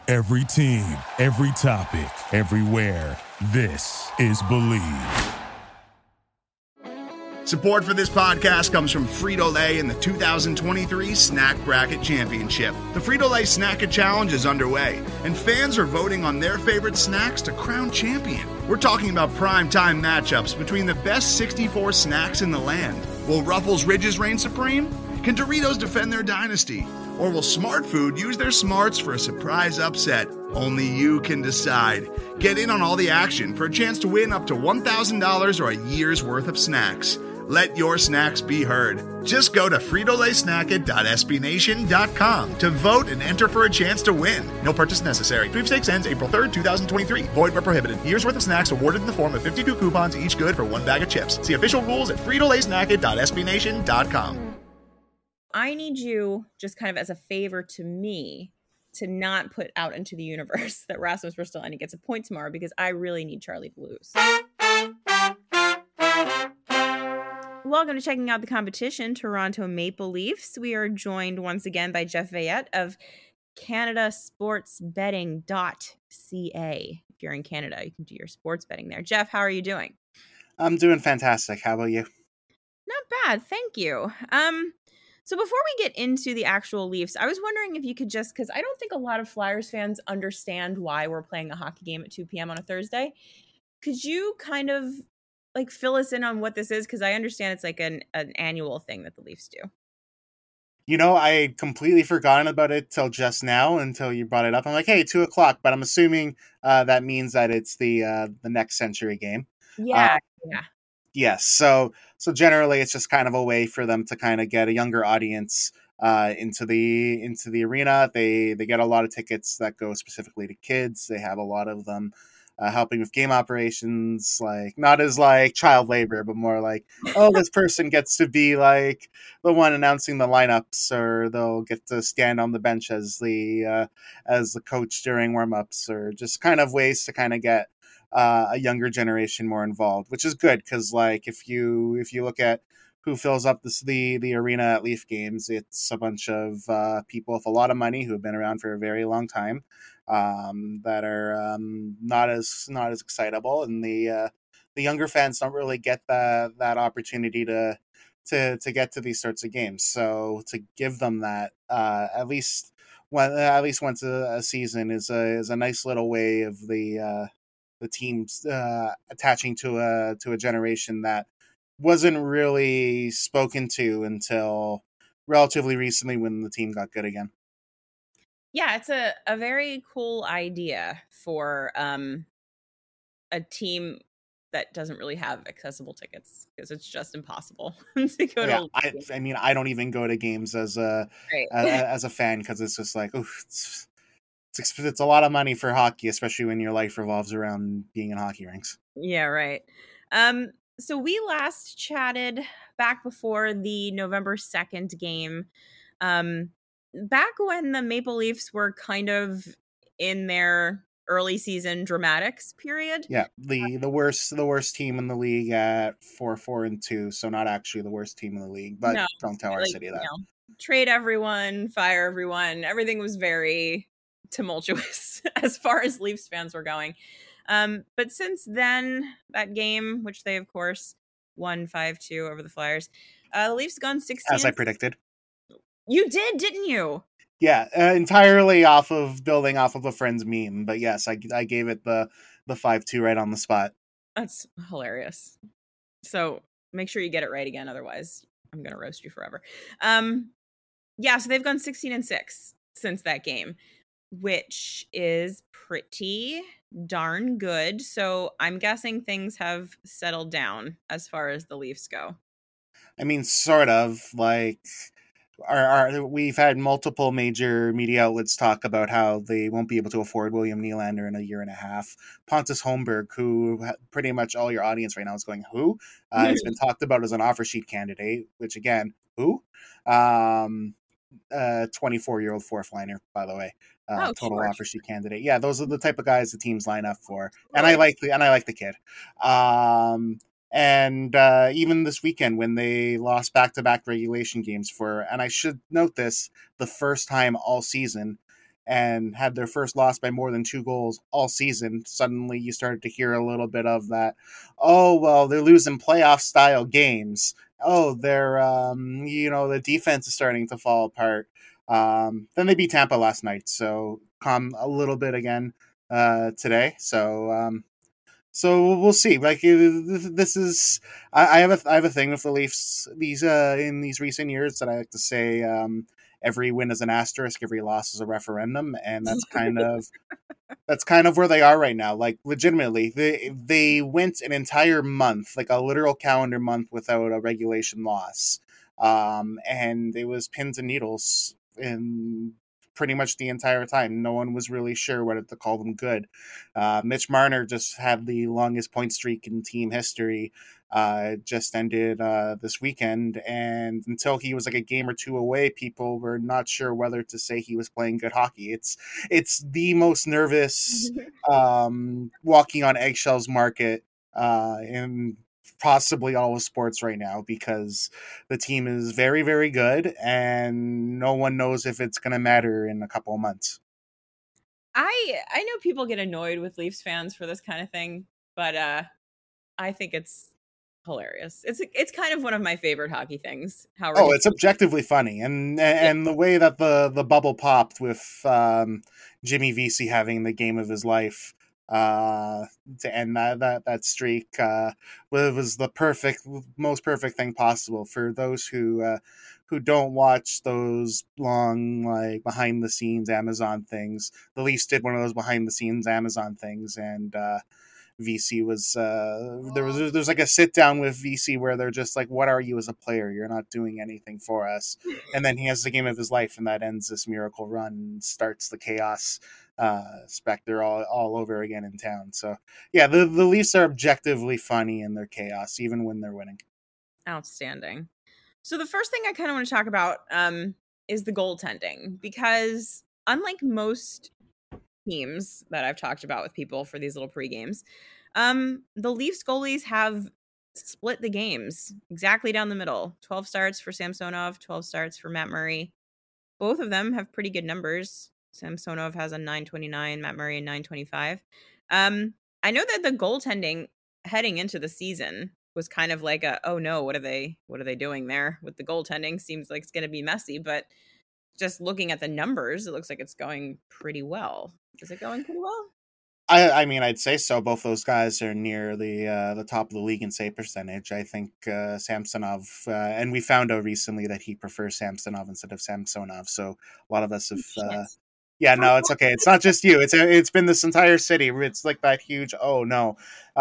Every team, every topic, everywhere. This is Believe. Support for this podcast comes from Frito-Lay and the 2023 Snack Bracket Championship. The Frito-Lay Snack-It Challenge is underway, and fans are voting on their favorite snacks to crown champion. We're talking about prime-time matchups between the best 64 snacks in the land. Will Ruffles Ridges reign supreme? Can Doritos defend their dynasty? Or will Smart Food use their smarts for a surprise upset? Only you can decide. Get in on all the action for a chance to win up to $1,000 or a year's worth of snacks. Let your snacks be heard. Just go to fritolaysnacket.sbnation.com to vote and enter for a chance to win. No purchase necessary. Sweepstakes ends April 3rd, 2023. Void where prohibited. Year's worth of snacks awarded in the form of 52 coupons, each good for one bag of chips. See official rules at fritolaysnacket.sbnation.com. I need you, just kind of as a favor to me, to not put out into the universe that Rasmus Ristolainen gets a point tomorrow, because I really need Charlie to lose. Welcome to Checking Out the Competition, Toronto Maple Leafs. We are joined once again by Jeff Veillette of CanadaSportsBetting.ca. If you're in Canada, you can do your sports betting there. Jeff, how are you doing? I'm doing fantastic. How about you? Not bad, thank you. So before we get into the actual Leafs, I was wondering if you could just, because I don't think a lot of Flyers fans understand why we're playing a hockey game at 2 p.m. on a Thursday. Could you kind of like fill us in on what this is? Because I understand it's like an annual thing that the Leafs do. You know, I had completely forgotten about it till just now, until you brought it up. I'm like, hey, 2 o'clock, but I'm assuming that means that it's the next Century game. Yeah. Yes. So generally, it's just kind of a way for them to kind of get a younger audience into the arena. They get a lot of tickets that go specifically to kids. They have a lot of them helping with game operations, like not as like child labor, but more like, oh, this person gets to be like the one announcing the lineups, or they'll get to stand on the bench as the coach during warmups, or just kind of ways to kind of get a younger generation more involved, which is good, because like if you look at who fills up the arena at Leaf games, it's a bunch of people with a lot of money who have been around for a very long time, that are not as excitable, and the younger fans don't really get that opportunity to get to these sorts of games. So to give them that at least once a season is a nice little way of the teams attaching to a generation that wasn't really spoken to until relatively recently, when the team got good again. Yeah, it's a very cool idea for a team that doesn't really have accessible tickets, because it's just impossible to go to. I mean, I don't even go to games as a fan, because it's just like, oof, it's a lot of money for hockey, especially when your life revolves around being in hockey rinks. Yeah, right. So we last chatted back before the November 2nd game, back when the Maple Leafs were kind of in their early season dramatics period. Yeah, the worst team in the league at 4-4-2, so not actually the worst team in the league, but no, don't tell our city that. Trade everyone, fire everyone. Everything was very tumultuous as far as Leafs fans were going. But since then, that game, which they of course won 5-2 over the Flyers, the Leafs gone 16. As I predicted. You did, didn't you? Yeah, entirely building off of a friend's meme. But yes, I gave it the 5-2 right on the spot. That's hilarious. So make sure you get it right again, otherwise I'm gonna roast you forever. Yeah, so they've gone 16-6 since that game, which is pretty darn good. So I'm guessing things have settled down as far as the Leafs go. I mean, sort of. Like, we've had multiple major media outlets talk about how they won't be able to afford William Nylander in a year and a half. Pontus Holmberg, who pretty much all your audience right now is going, who? Has been talked about as an offer sheet candidate, which again, who? 24-year-old fourth liner, by the way. Total offer sheet candidate. Yeah, those are the type of guys the teams line up for. And I like the kid. And even this weekend, when they lost back-to-back regulation games and I should note this, the first time all season, and had their first loss by more than 2 goals all season, suddenly you started to hear a little bit of that. Oh, well, they're losing playoff style games. Oh, they're, the defense is starting to fall apart. Then they beat Tampa last night, so calm a little bit again today. So we'll see. Like this is, I have a thing with the Leafs. These in these recent years that I like to say, every win is an asterisk, every loss is a referendum, and that's kind of where they are right now. Like legitimately, they went an entire month, like a literal calendar month, without a regulation loss, and it was pins and needles in pretty much the entire time. No one was really sure whether to call them good. Mitch Marner just had the longest point streak in team history. Just ended this weekend, and until he was like a game or two away, people were not sure whether to say he was playing good hockey. It's the most nervous walking on eggshells market in possibly all of sports right now, because the team is very, very good and no one knows if it's going to matter in a couple of months. I know people get annoyed with Leafs fans for this kind of thing, but I think it's hilarious. It's kind of one of my favorite hockey things. It's objectively funny, and the way that the bubble popped with Jimmy Vesey having the game of his life to end that streak was the most perfect thing possible. For those who don't watch those long, like, behind the scenes Amazon things, the Leafs did one of those behind the scenes Amazon things, and VC was there's like a sit down with VC where they're just like, what are you as a player? You're not doing anything for us. And then he has the game of his life, and that ends this miracle run and starts the chaos specter all over again in town. So yeah, the Leafs are objectively funny in their chaos, even when they're winning. Outstanding. So the first thing I kind of want to talk about is the goaltending, because unlike most teams that I've talked about with people for these little pre-games, the Leafs goalies have split the games exactly down the middle. 12 starts for Samsonov, 12 starts for Matt Murray. Both of them have pretty good numbers. Samsonov has a 929, Matt Murray a 925. I know that the goaltending heading into the season was kind of like oh no, what are they doing there with the goaltending? Seems like it's going to be messy, but just looking at the numbers, it looks like it's going pretty well. Is it going pretty well? I mean, I'd say so. Both those guys are near the top of the league in save percentage. I think Samsonov, and we found out recently that he prefers Samsonov instead of Samsonov. So a lot of us have. Yeah, no, it's okay. It's not just you. It's been this entire city. It's like that huge. Oh no.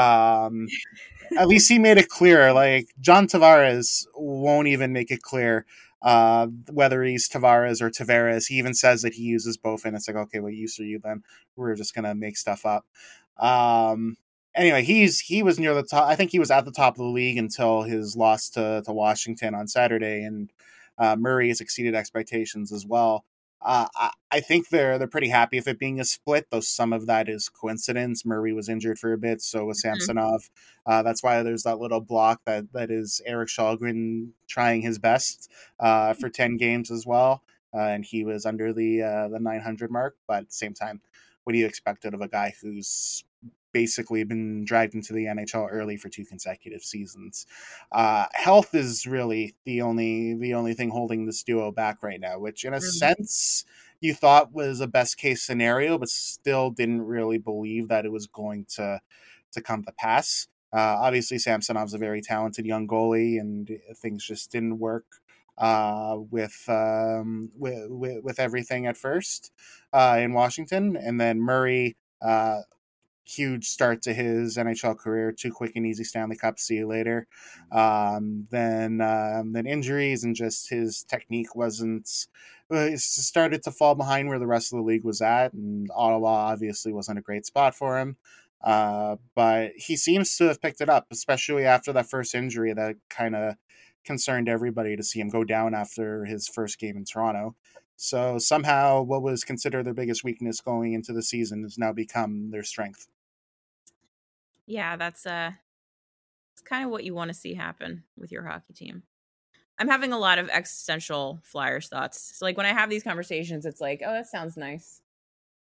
At least he made it clear. Like, John Tavares won't even make it clear whether he's Tavares or Tavares. He even says that he uses both, and it's like, okay, what use are you then? We're just gonna make stuff up. Anyway, he was near the top. I think he was at the top of the league until his loss to Washington on Saturday, and Murray has exceeded expectations as well. I think they're pretty happy with it being a split, though some of that is coincidence. Murray was injured for a bit, so was Samsonov. That's why there's that little block that is Eric Kallgren trying his best for 10 games as well, and he was under the 900 mark. But at the same time, what do you expect out of a guy who's basically been dragged into the NHL early for 2 consecutive seasons? Health is really the only thing holding this duo back right now, which in a sense you thought was a best case scenario, but still didn't really believe that it was going to come to pass. Obviously, Samsonov's a very talented young goalie, and things just didn't work with everything at first in Washington. And then Murray, huge start to his NHL career, 2 quick and easy Stanley Cups, see you later. Then injuries, and just his technique started to fall behind where the rest of the league was at, and Ottawa obviously wasn't a great spot for him. But he seems to have picked it up, especially after that first injury that kind of concerned everybody to see him go down after his first game in Toronto. So somehow what was considered their biggest weakness going into the season has now become their strength. Yeah, that's it's kind of what you want to see happen with your hockey team. I'm having a lot of existential Flyers thoughts. So like when I have these conversations, it's like, oh, that sounds nice.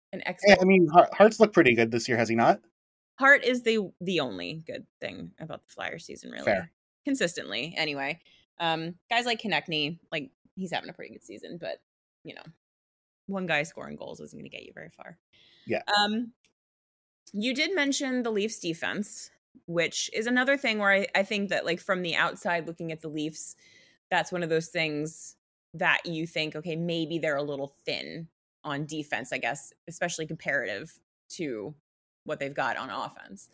an Yeah, expert. I mean, Hart's looked pretty good this year, has he not? Hart is the only good thing about the Flyers season, really. Fair. Consistently, anyway. Guys like Konechny, like, he's having a pretty good season, but, you know, one guy scoring goals isn't going to get you very far. Yeah. You did mention the Leafs defense, which is another thing where I think that, like, from the outside looking at the Leafs, that's one of those things that you think, okay, maybe they're a little thin on defense, I guess, especially comparative to what they've got on offense.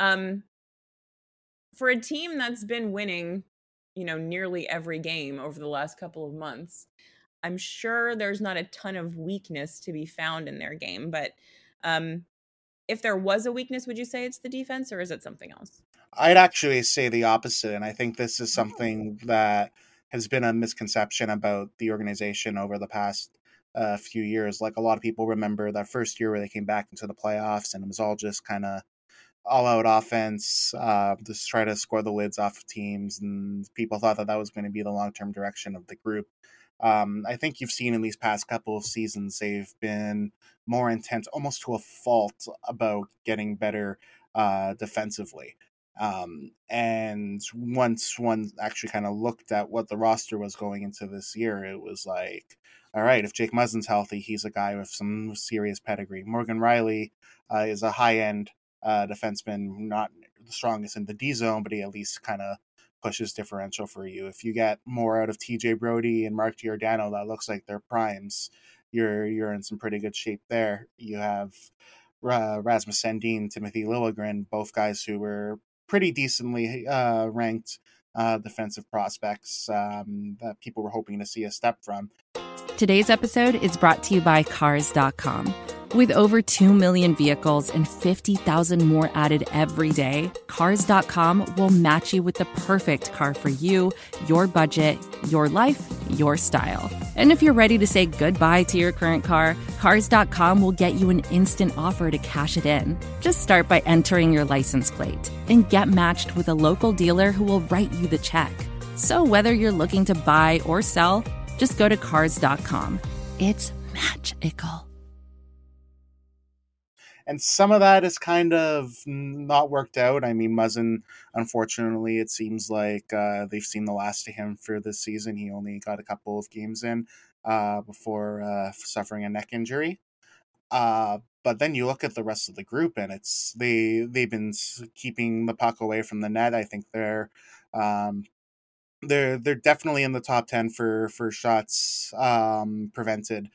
For a team that's been winning, you know, nearly every game over the last couple of months, I'm sure there's not a ton of weakness to be found in their game. But if there was a weakness, would you say it's the defense, or is it something else? I'd actually say the opposite, and I think this is something that has been a misconception about the organization over the past few years. Like, a lot of people remember that first year where they came back into the playoffs, and it was all just kind of all-out offense, just try to score the lids off of teams, and people thought that that was going to be the long-term direction of the group. I think you've seen in these past couple of seasons they've been more intense, almost to a fault, about getting better defensively. And once one actually kind of looked at what the roster was going into this year, it was like, all right, if Jake Muzzin's healthy, he's a guy with some serious pedigree. Morgan Riley is a high-end defenseman, not the strongest in the D zone, but he at least kind of pushes differential for you. If you get more out of TJ Brody and Mark Giordano, that looks like they're primes. You're in some pretty good shape there. You have Rasmus Sandin, Timothy Liljegren, both guys who were pretty decently ranked defensive prospects that people were hoping to see a step from. Today's episode is brought to you by Cars.com. With over 2 million vehicles and 50,000 more added every day, Cars.com will match you with the perfect car for you, your budget, your life, your style. And if you're ready to say goodbye to your current car, Cars.com will get you an instant offer to cash it in. Just start by entering your license plate and get matched with a local dealer who will write you the check. So whether you're looking to buy or sell, just go to Cars.com. It's magical. And some of that is kind of not worked out. I mean, Muzzin, unfortunately, it seems like they've seen the last of him for this season. He only got a couple of games in before suffering a neck injury. But then you look at the rest of the group, and they've been keeping the puck away from the net. I think they're definitely in the top 10 for shots prevented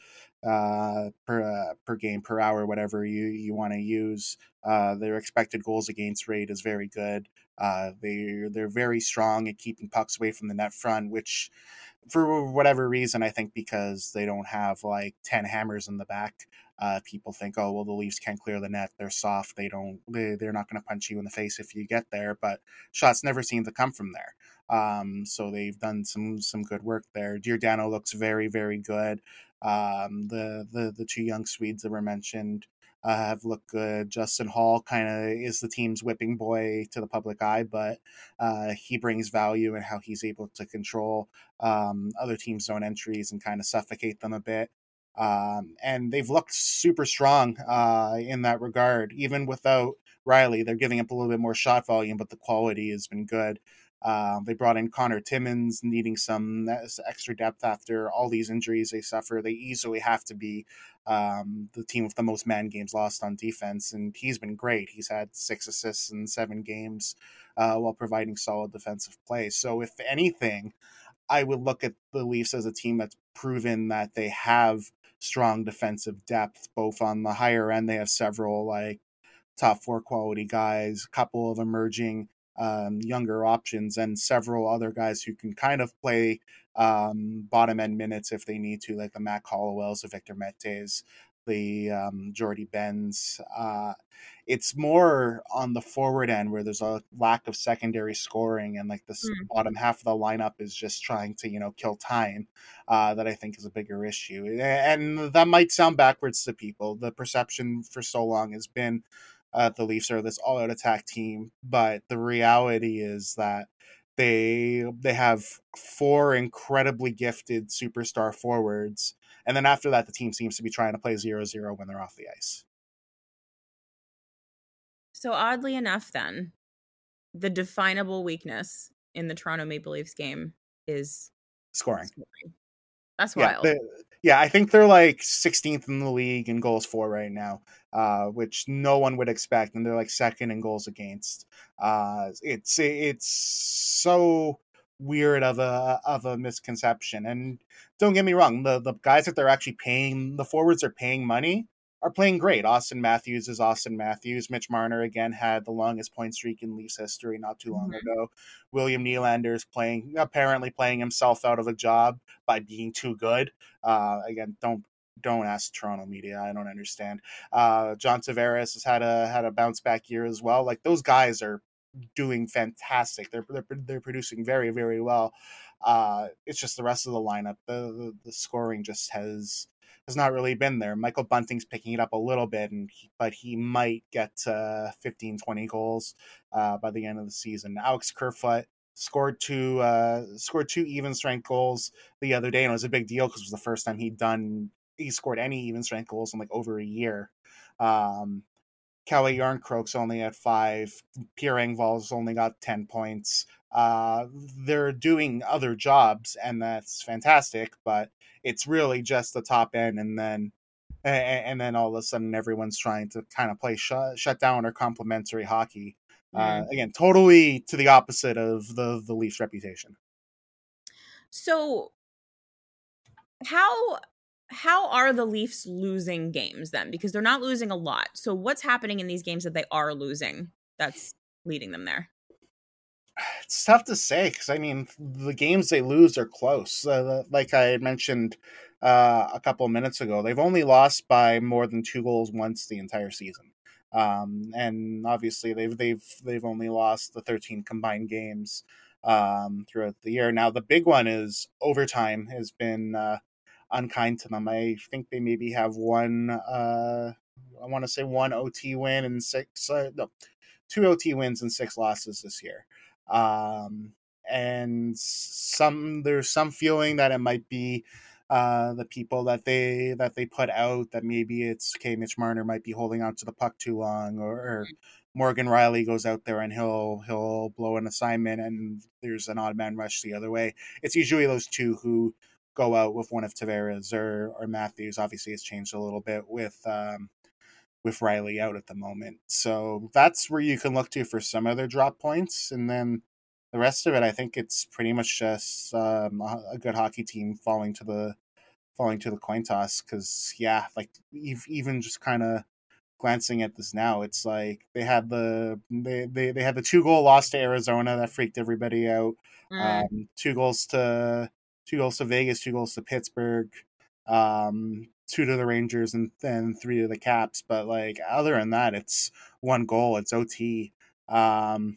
per game, per hour, whatever you want to use. Their expected goals against rate is very good. They're very strong at keeping pucks away from the net front, which, for whatever reason, I think because they don't have like 10 hammers in the back, people think, oh well, the Leafs can't clear the net, they're soft, they're not going to punch you in the face if you get there, but shots never seem to come from there. So they've done some good work there. Giordano looks very, very good. The two young Swedes that were mentioned have looked good. Justin Hall kind of is the team's whipping boy to the public eye, but he brings value in how he's able to control other teams' zone entries and kind of suffocate them a bit. And they've looked super strong in that regard. Even without Riley, they're giving up a little bit more shot volume, but the quality has been good. They brought in Connor Timmins, needing some extra depth after all these injuries they suffer. They easily have to be the team with the most man games lost on defense, and he's been great. He's had 6 assists in 7 games while providing solid defensive play. So if anything, I would look at the Leafs as a team that's proven that they have strong defensive depth, both on the higher end. They have several like top 4 quality guys, a couple of emerging younger options, and several other guys who can kind of play bottom end minutes if they need to, like the Matt Hollowells, the Victor Metes, the Jordy Benz. It's more on the forward end where there's a lack of secondary scoring, and like this bottom half of the lineup is just trying to kill time. That I think is a bigger issue, and that might sound backwards to people. The perception for so long has been the Leafs are this all-out attack team, but the reality is that they have 4 incredibly gifted superstar forwards, And then after that, the team seems to be trying to play 0-0 when they're off the ice. So oddly enough, then, the definable weakness in the Toronto Maple Leafs game is Scoring. That's wild. Yeah, I think they're like 16th in the league in goals for right now, which no one would expect, and they're like second in goals against. It's so weird of a misconception. And don't get me wrong, the guys that they're actually paying, the forwards are paying money, are playing great. Austin Matthews is Austin Matthews. Mitch Marner again had the longest point streak in Leafs history not too long ago. William Nylander is apparently playing himself out of a job by being too good. Again, don't ask Toronto media. I don't understand. John Tavares has had a bounce back year as well. Like, those guys are doing fantastic. They're producing very, very well. It's just the rest of the lineup. The scoring just has not really been there. Michael Bunting's picking it up a little bit, but he might get 15, 20 goals by the end of the season. Alex Kerfoot scored two even strength goals the other day, and it was a big deal because it was the first time he scored any even strength goals in like over a year. Kalle Järnkrok's only at 5. Pierre Engvall's only got 10 points. They're doing other jobs, and that's fantastic, but it's really just the top end, and then all of a sudden everyone's trying to kind of play shut down or complementary hockey. Again, totally to the opposite of the Leafs' reputation. So how are the Leafs losing games then? Because they're not losing a lot. So what's happening in these games that they are losing that's leading them there? It's tough to say because, I mean, the games they lose are close. Like I had mentioned a couple of minutes ago, they've only lost by more than 2 goals once the entire season. And obviously they've only lost the 13 combined games throughout the year. Now, the big one is overtime has been unkind to them. I think they maybe have one OT win and 2 OT wins and 6 losses this year. And there's some feeling that it might be the people that they put out, that maybe it's Mitch Marner might be holding on to the puck too long, or Morgan Rielly goes out there and he'll blow an assignment and there's an odd man rush the other way. It's usually those two who go out with one of Tavares or Matthews. Obviously, it's changed a little bit with Rielly out at the moment. So that's where you can look to for some other drop points. And then the rest of it, I think it's pretty much just a good hockey team falling to the coin toss. Because, yeah, like even just kind of glancing at this now, it's like they had the 2-goal loss to Arizona that freaked everybody out. 2 goals to Vegas, 2 goals to Pittsburgh, 2 to the Rangers, and then 3 to the Caps. But like other than that, it's 1 goal. It's OT, and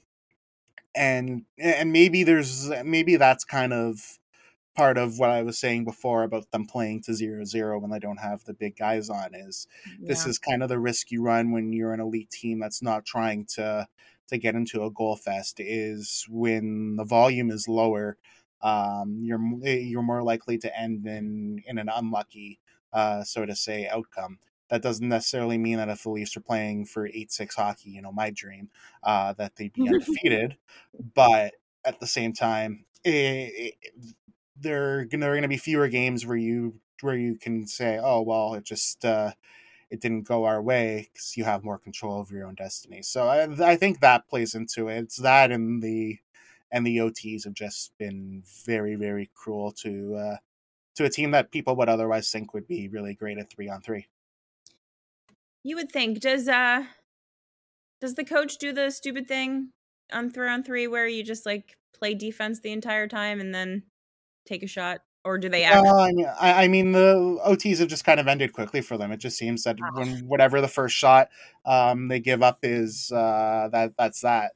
maybe that's kind of part of what I was saying before about them playing to 0-0 when they don't have the big guys on. This is kind of the risk you run when you're an elite team that's not trying to get into a goal fest, is when the volume is lower. You're more likely to end in an unlucky, so to say, outcome. That doesn't necessarily mean that if the Leafs are playing for 8-6 hockey, my dream, that they'd be undefeated. But at the same time, there are going to be fewer games where you can say, oh well, it just it didn't go our way, because you have more control over your own destiny. So I think that plays into it. It's that, and the OTs have just been very, very cruel to a team that people would otherwise think would be really great at 3-on-3. You would think. Does the coach do the stupid thing on 3-on-3 where you just like play defense the entire time and then take a shot? Or do they actually... I mean, the OTs have just kind of ended quickly for them. It just seems that whatever the first shot they give up is, that's that.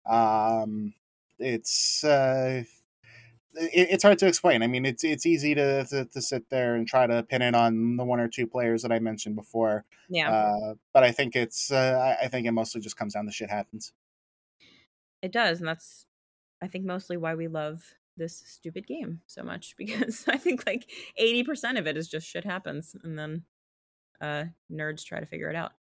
It's hard to explain. I mean, it's easy to sit there and try to pin it on the 1 or 2 players that I mentioned before. Yeah. But I think I think it mostly just comes down to shit happens. It does, and that's, I think, mostly why we love this stupid game so much, because I think like 80% of it is just shit happens and then nerds try to figure it out.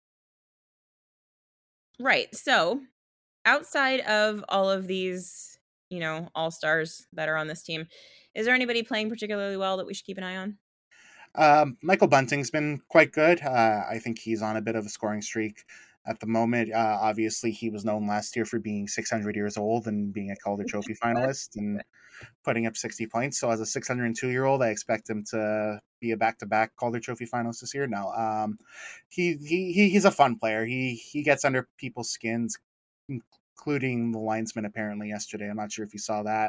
Right. So outside of all of these, all-stars that are on this team, is there anybody playing particularly well that we should keep an eye on? Michael Bunting's been quite good. I think he's on a bit of a scoring streak at the moment. Obviously, he was known last year for being 600 years old and being a Calder Trophy finalist and putting up 60 points. So as a 602-year-old, I expect him to be a back-to-back Calder Trophy finalist this year. Now, he's a fun player. He gets under people's skins, including the linesman apparently yesterday. I'm not sure if you saw that,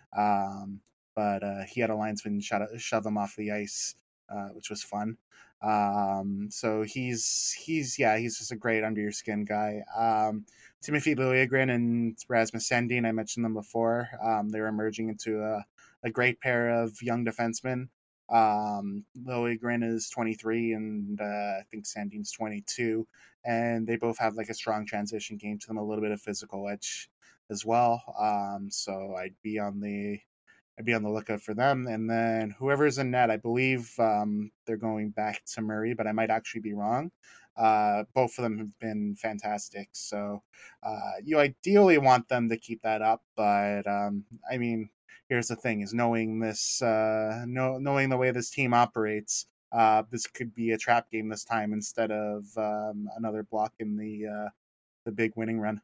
but he had a linesman shove him off the ice. Which was fun. So he's just a great under your skin guy. Timothy Liljegren and Rasmus Sandin, I mentioned them before. They're emerging into a great pair of young defensemen. Liljegren is 23 and I think Sandin's 22, and they both have like a strong transition game to them, a little bit of physical edge as well. So I'd be on the lookout for them. And then whoever's in net, I believe they're going back to Murray, but I might actually be wrong. Both of them have been fantastic. So you ideally want them to keep that up. But I mean, here's the thing: is knowing this, knowing the way this team operates. This could be a trap game this time instead of another block in the big winning run.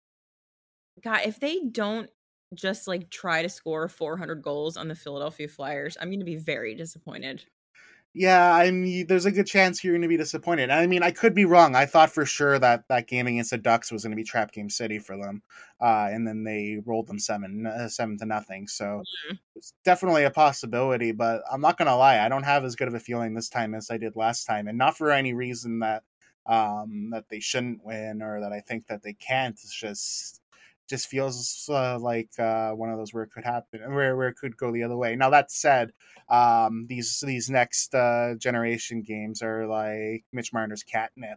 God, if they don't just like try to score 400 goals on the Philadelphia Flyers, I'm going to be very disappointed. Yeah, I mean, there's a good chance you're going to be disappointed. I mean, I could be wrong. I thought for sure that game against the Ducks was going to be trap game city for them, and then they rolled them 7-0. So it's definitely a possibility. But I'm not going to lie, I don't have as good of a feeling this time as I did last time, and not for any reason that they shouldn't win or that I think that they can't. It's just feels like one of those where it could happen, where it could go the other way. Now that said, these next generation games are like Mitch Marner's catnip.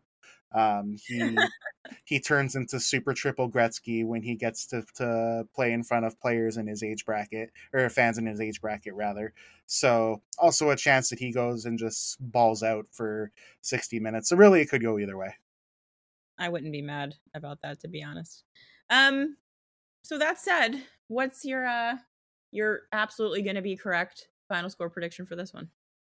He turns into super triple Gretzky when he gets to play in front of players in his age bracket, or fans in his age bracket rather. So also a chance that he goes and just balls out for 60 minutes. So really it could go either way. I wouldn't be mad about that, to be honest. So that said, what's your absolutely going to be correct final score prediction for this one?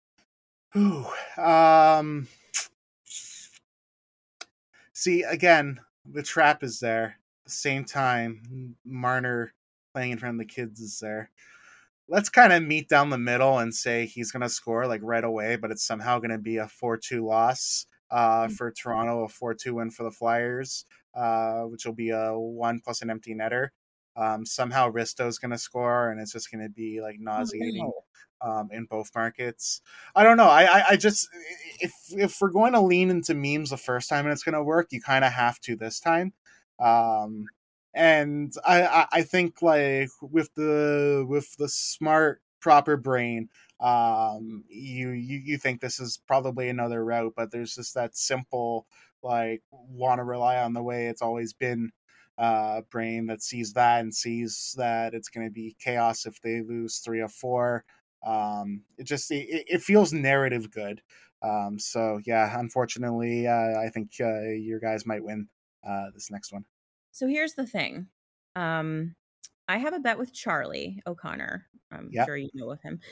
See, again, the trap is there. At the same time, Marner playing in front of the kids is there. Let's kind of meet down the middle and say he's going to score like right away, but it's somehow going to be a 4-2 loss for Toronto, a 4-2 win for the Flyers, which will be a 1 plus an empty netter. Somehow Risto's going to score, and it's just going to be like nauseating in both markets. I don't know. I just, if we're going to lean into memes the first time and it's going to work, you kind of have to this time. And I think like with the smart proper brain, you think this is probably another route, but there's just that simple like want to rely on the way it's always been brain that sees that and sees that it's going to be chaos if they lose 3 or 4. It feels narrative good. So yeah, unfortunately, I think your guys might win this next one. So here's the thing. I have a bet with Charlie O'Connor. I'm sure you know of him.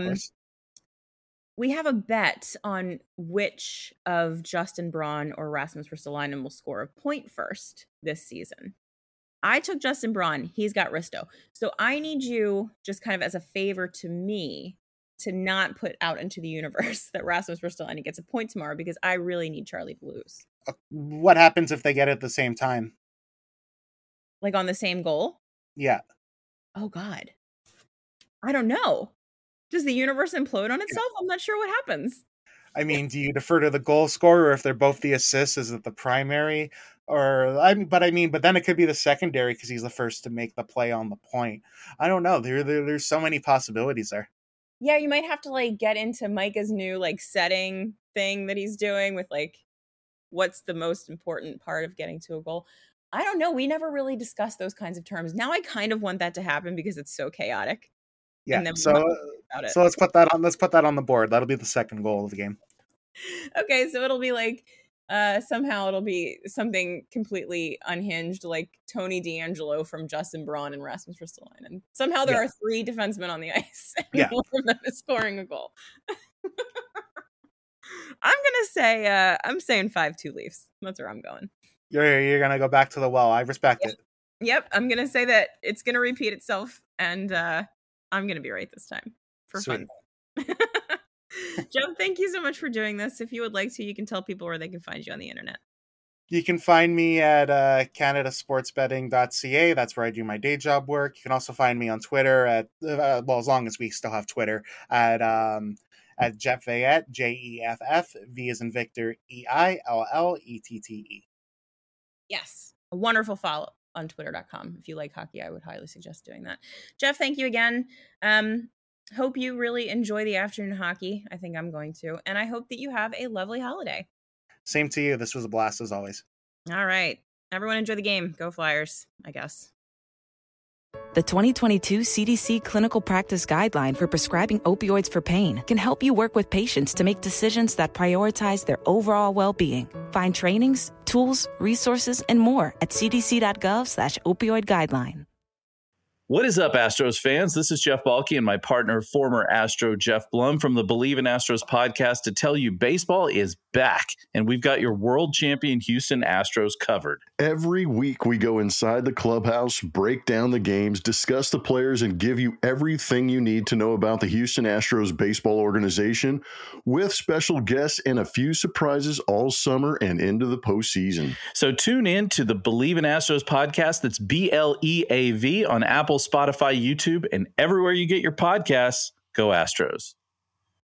We have a bet on which of Justin Braun or Rasmus Ristolainen will score a point first this season. I took Justin Braun. He's got Risto. So I need you, just kind of as a favor to me, to not put out into the universe that Rasmus Ristolainen gets a point tomorrow, because I really need Charlie to lose. What happens if they get it at the same time? Like on the same goal? Yeah. Oh, God. I don't know. Does the universe implode on itself? I'm not sure what happens. I mean, do you defer to the goal scorer if they're both the assists? Is it the primary? But then it could be the secondary because he's the first to make the play on the point. I don't know. There's so many possibilities there. Yeah, you might have to like get into Micah's new like setting thing that he's doing with like what's the most important part of getting to a goal. I don't know. We never really discussed those kinds of terms. Now I kind of want that to happen because it's so chaotic. Yeah. And then So let's put that on the board. That'll be the second goal of the game. Okay, so it'll be like somehow it'll be something completely unhinged, like Tony D'Angelo from Justin Braun and Rasmus Ristolainen. Somehow there are 3 defensemen on the ice, and one of them is scoring a goal. I'm saying 5-2 Leafs. That's where I'm going. You're gonna go back to the well. I respect it. Yep, I'm gonna say that it's gonna repeat itself, and I'm gonna be right this time for fun. Joe, thank you so much for doing this. If you would like to, you can tell people where they can find you on the internet. You can find me at canadasportsbetting.ca. That's where I do my day job work. You can also find me on Twitter at as long as we still have Twitter, at Jeff Veillette, Jeff, V as in Victor, EILLETTE. Yes, a wonderful follow on twitter.com. If you like hockey, I would highly suggest doing that. Jeff, thank you again. Hope you really enjoy the afternoon hockey. I think I'm going to. And I hope that you have a lovely holiday. Same to you. This was a blast as always. All right. Everyone enjoy the game. Go Flyers, I guess. The 2022 CDC Clinical Practice Guideline for Prescribing Opioids for Pain can help you work with patients to make decisions that prioritize their overall well-being. Find trainings, tools, resources, and more at cdc.gov/opioid guideline. What is up, Astros fans? This is Jeff Balke and my partner, former Astro Jeff Blum from the Believe in Astros podcast to tell you baseball is back, and we've got your world champion Houston Astros covered. Every week we go inside the clubhouse, break down the games, discuss the players, and give you everything you need to know about the Houston Astros baseball organization with special guests and a few surprises all summer and into the postseason. So tune in to the Believe in Astros podcast. That's BLEAV on Apple, Spotify, YouTube, and everywhere you get your podcasts. Go Astros.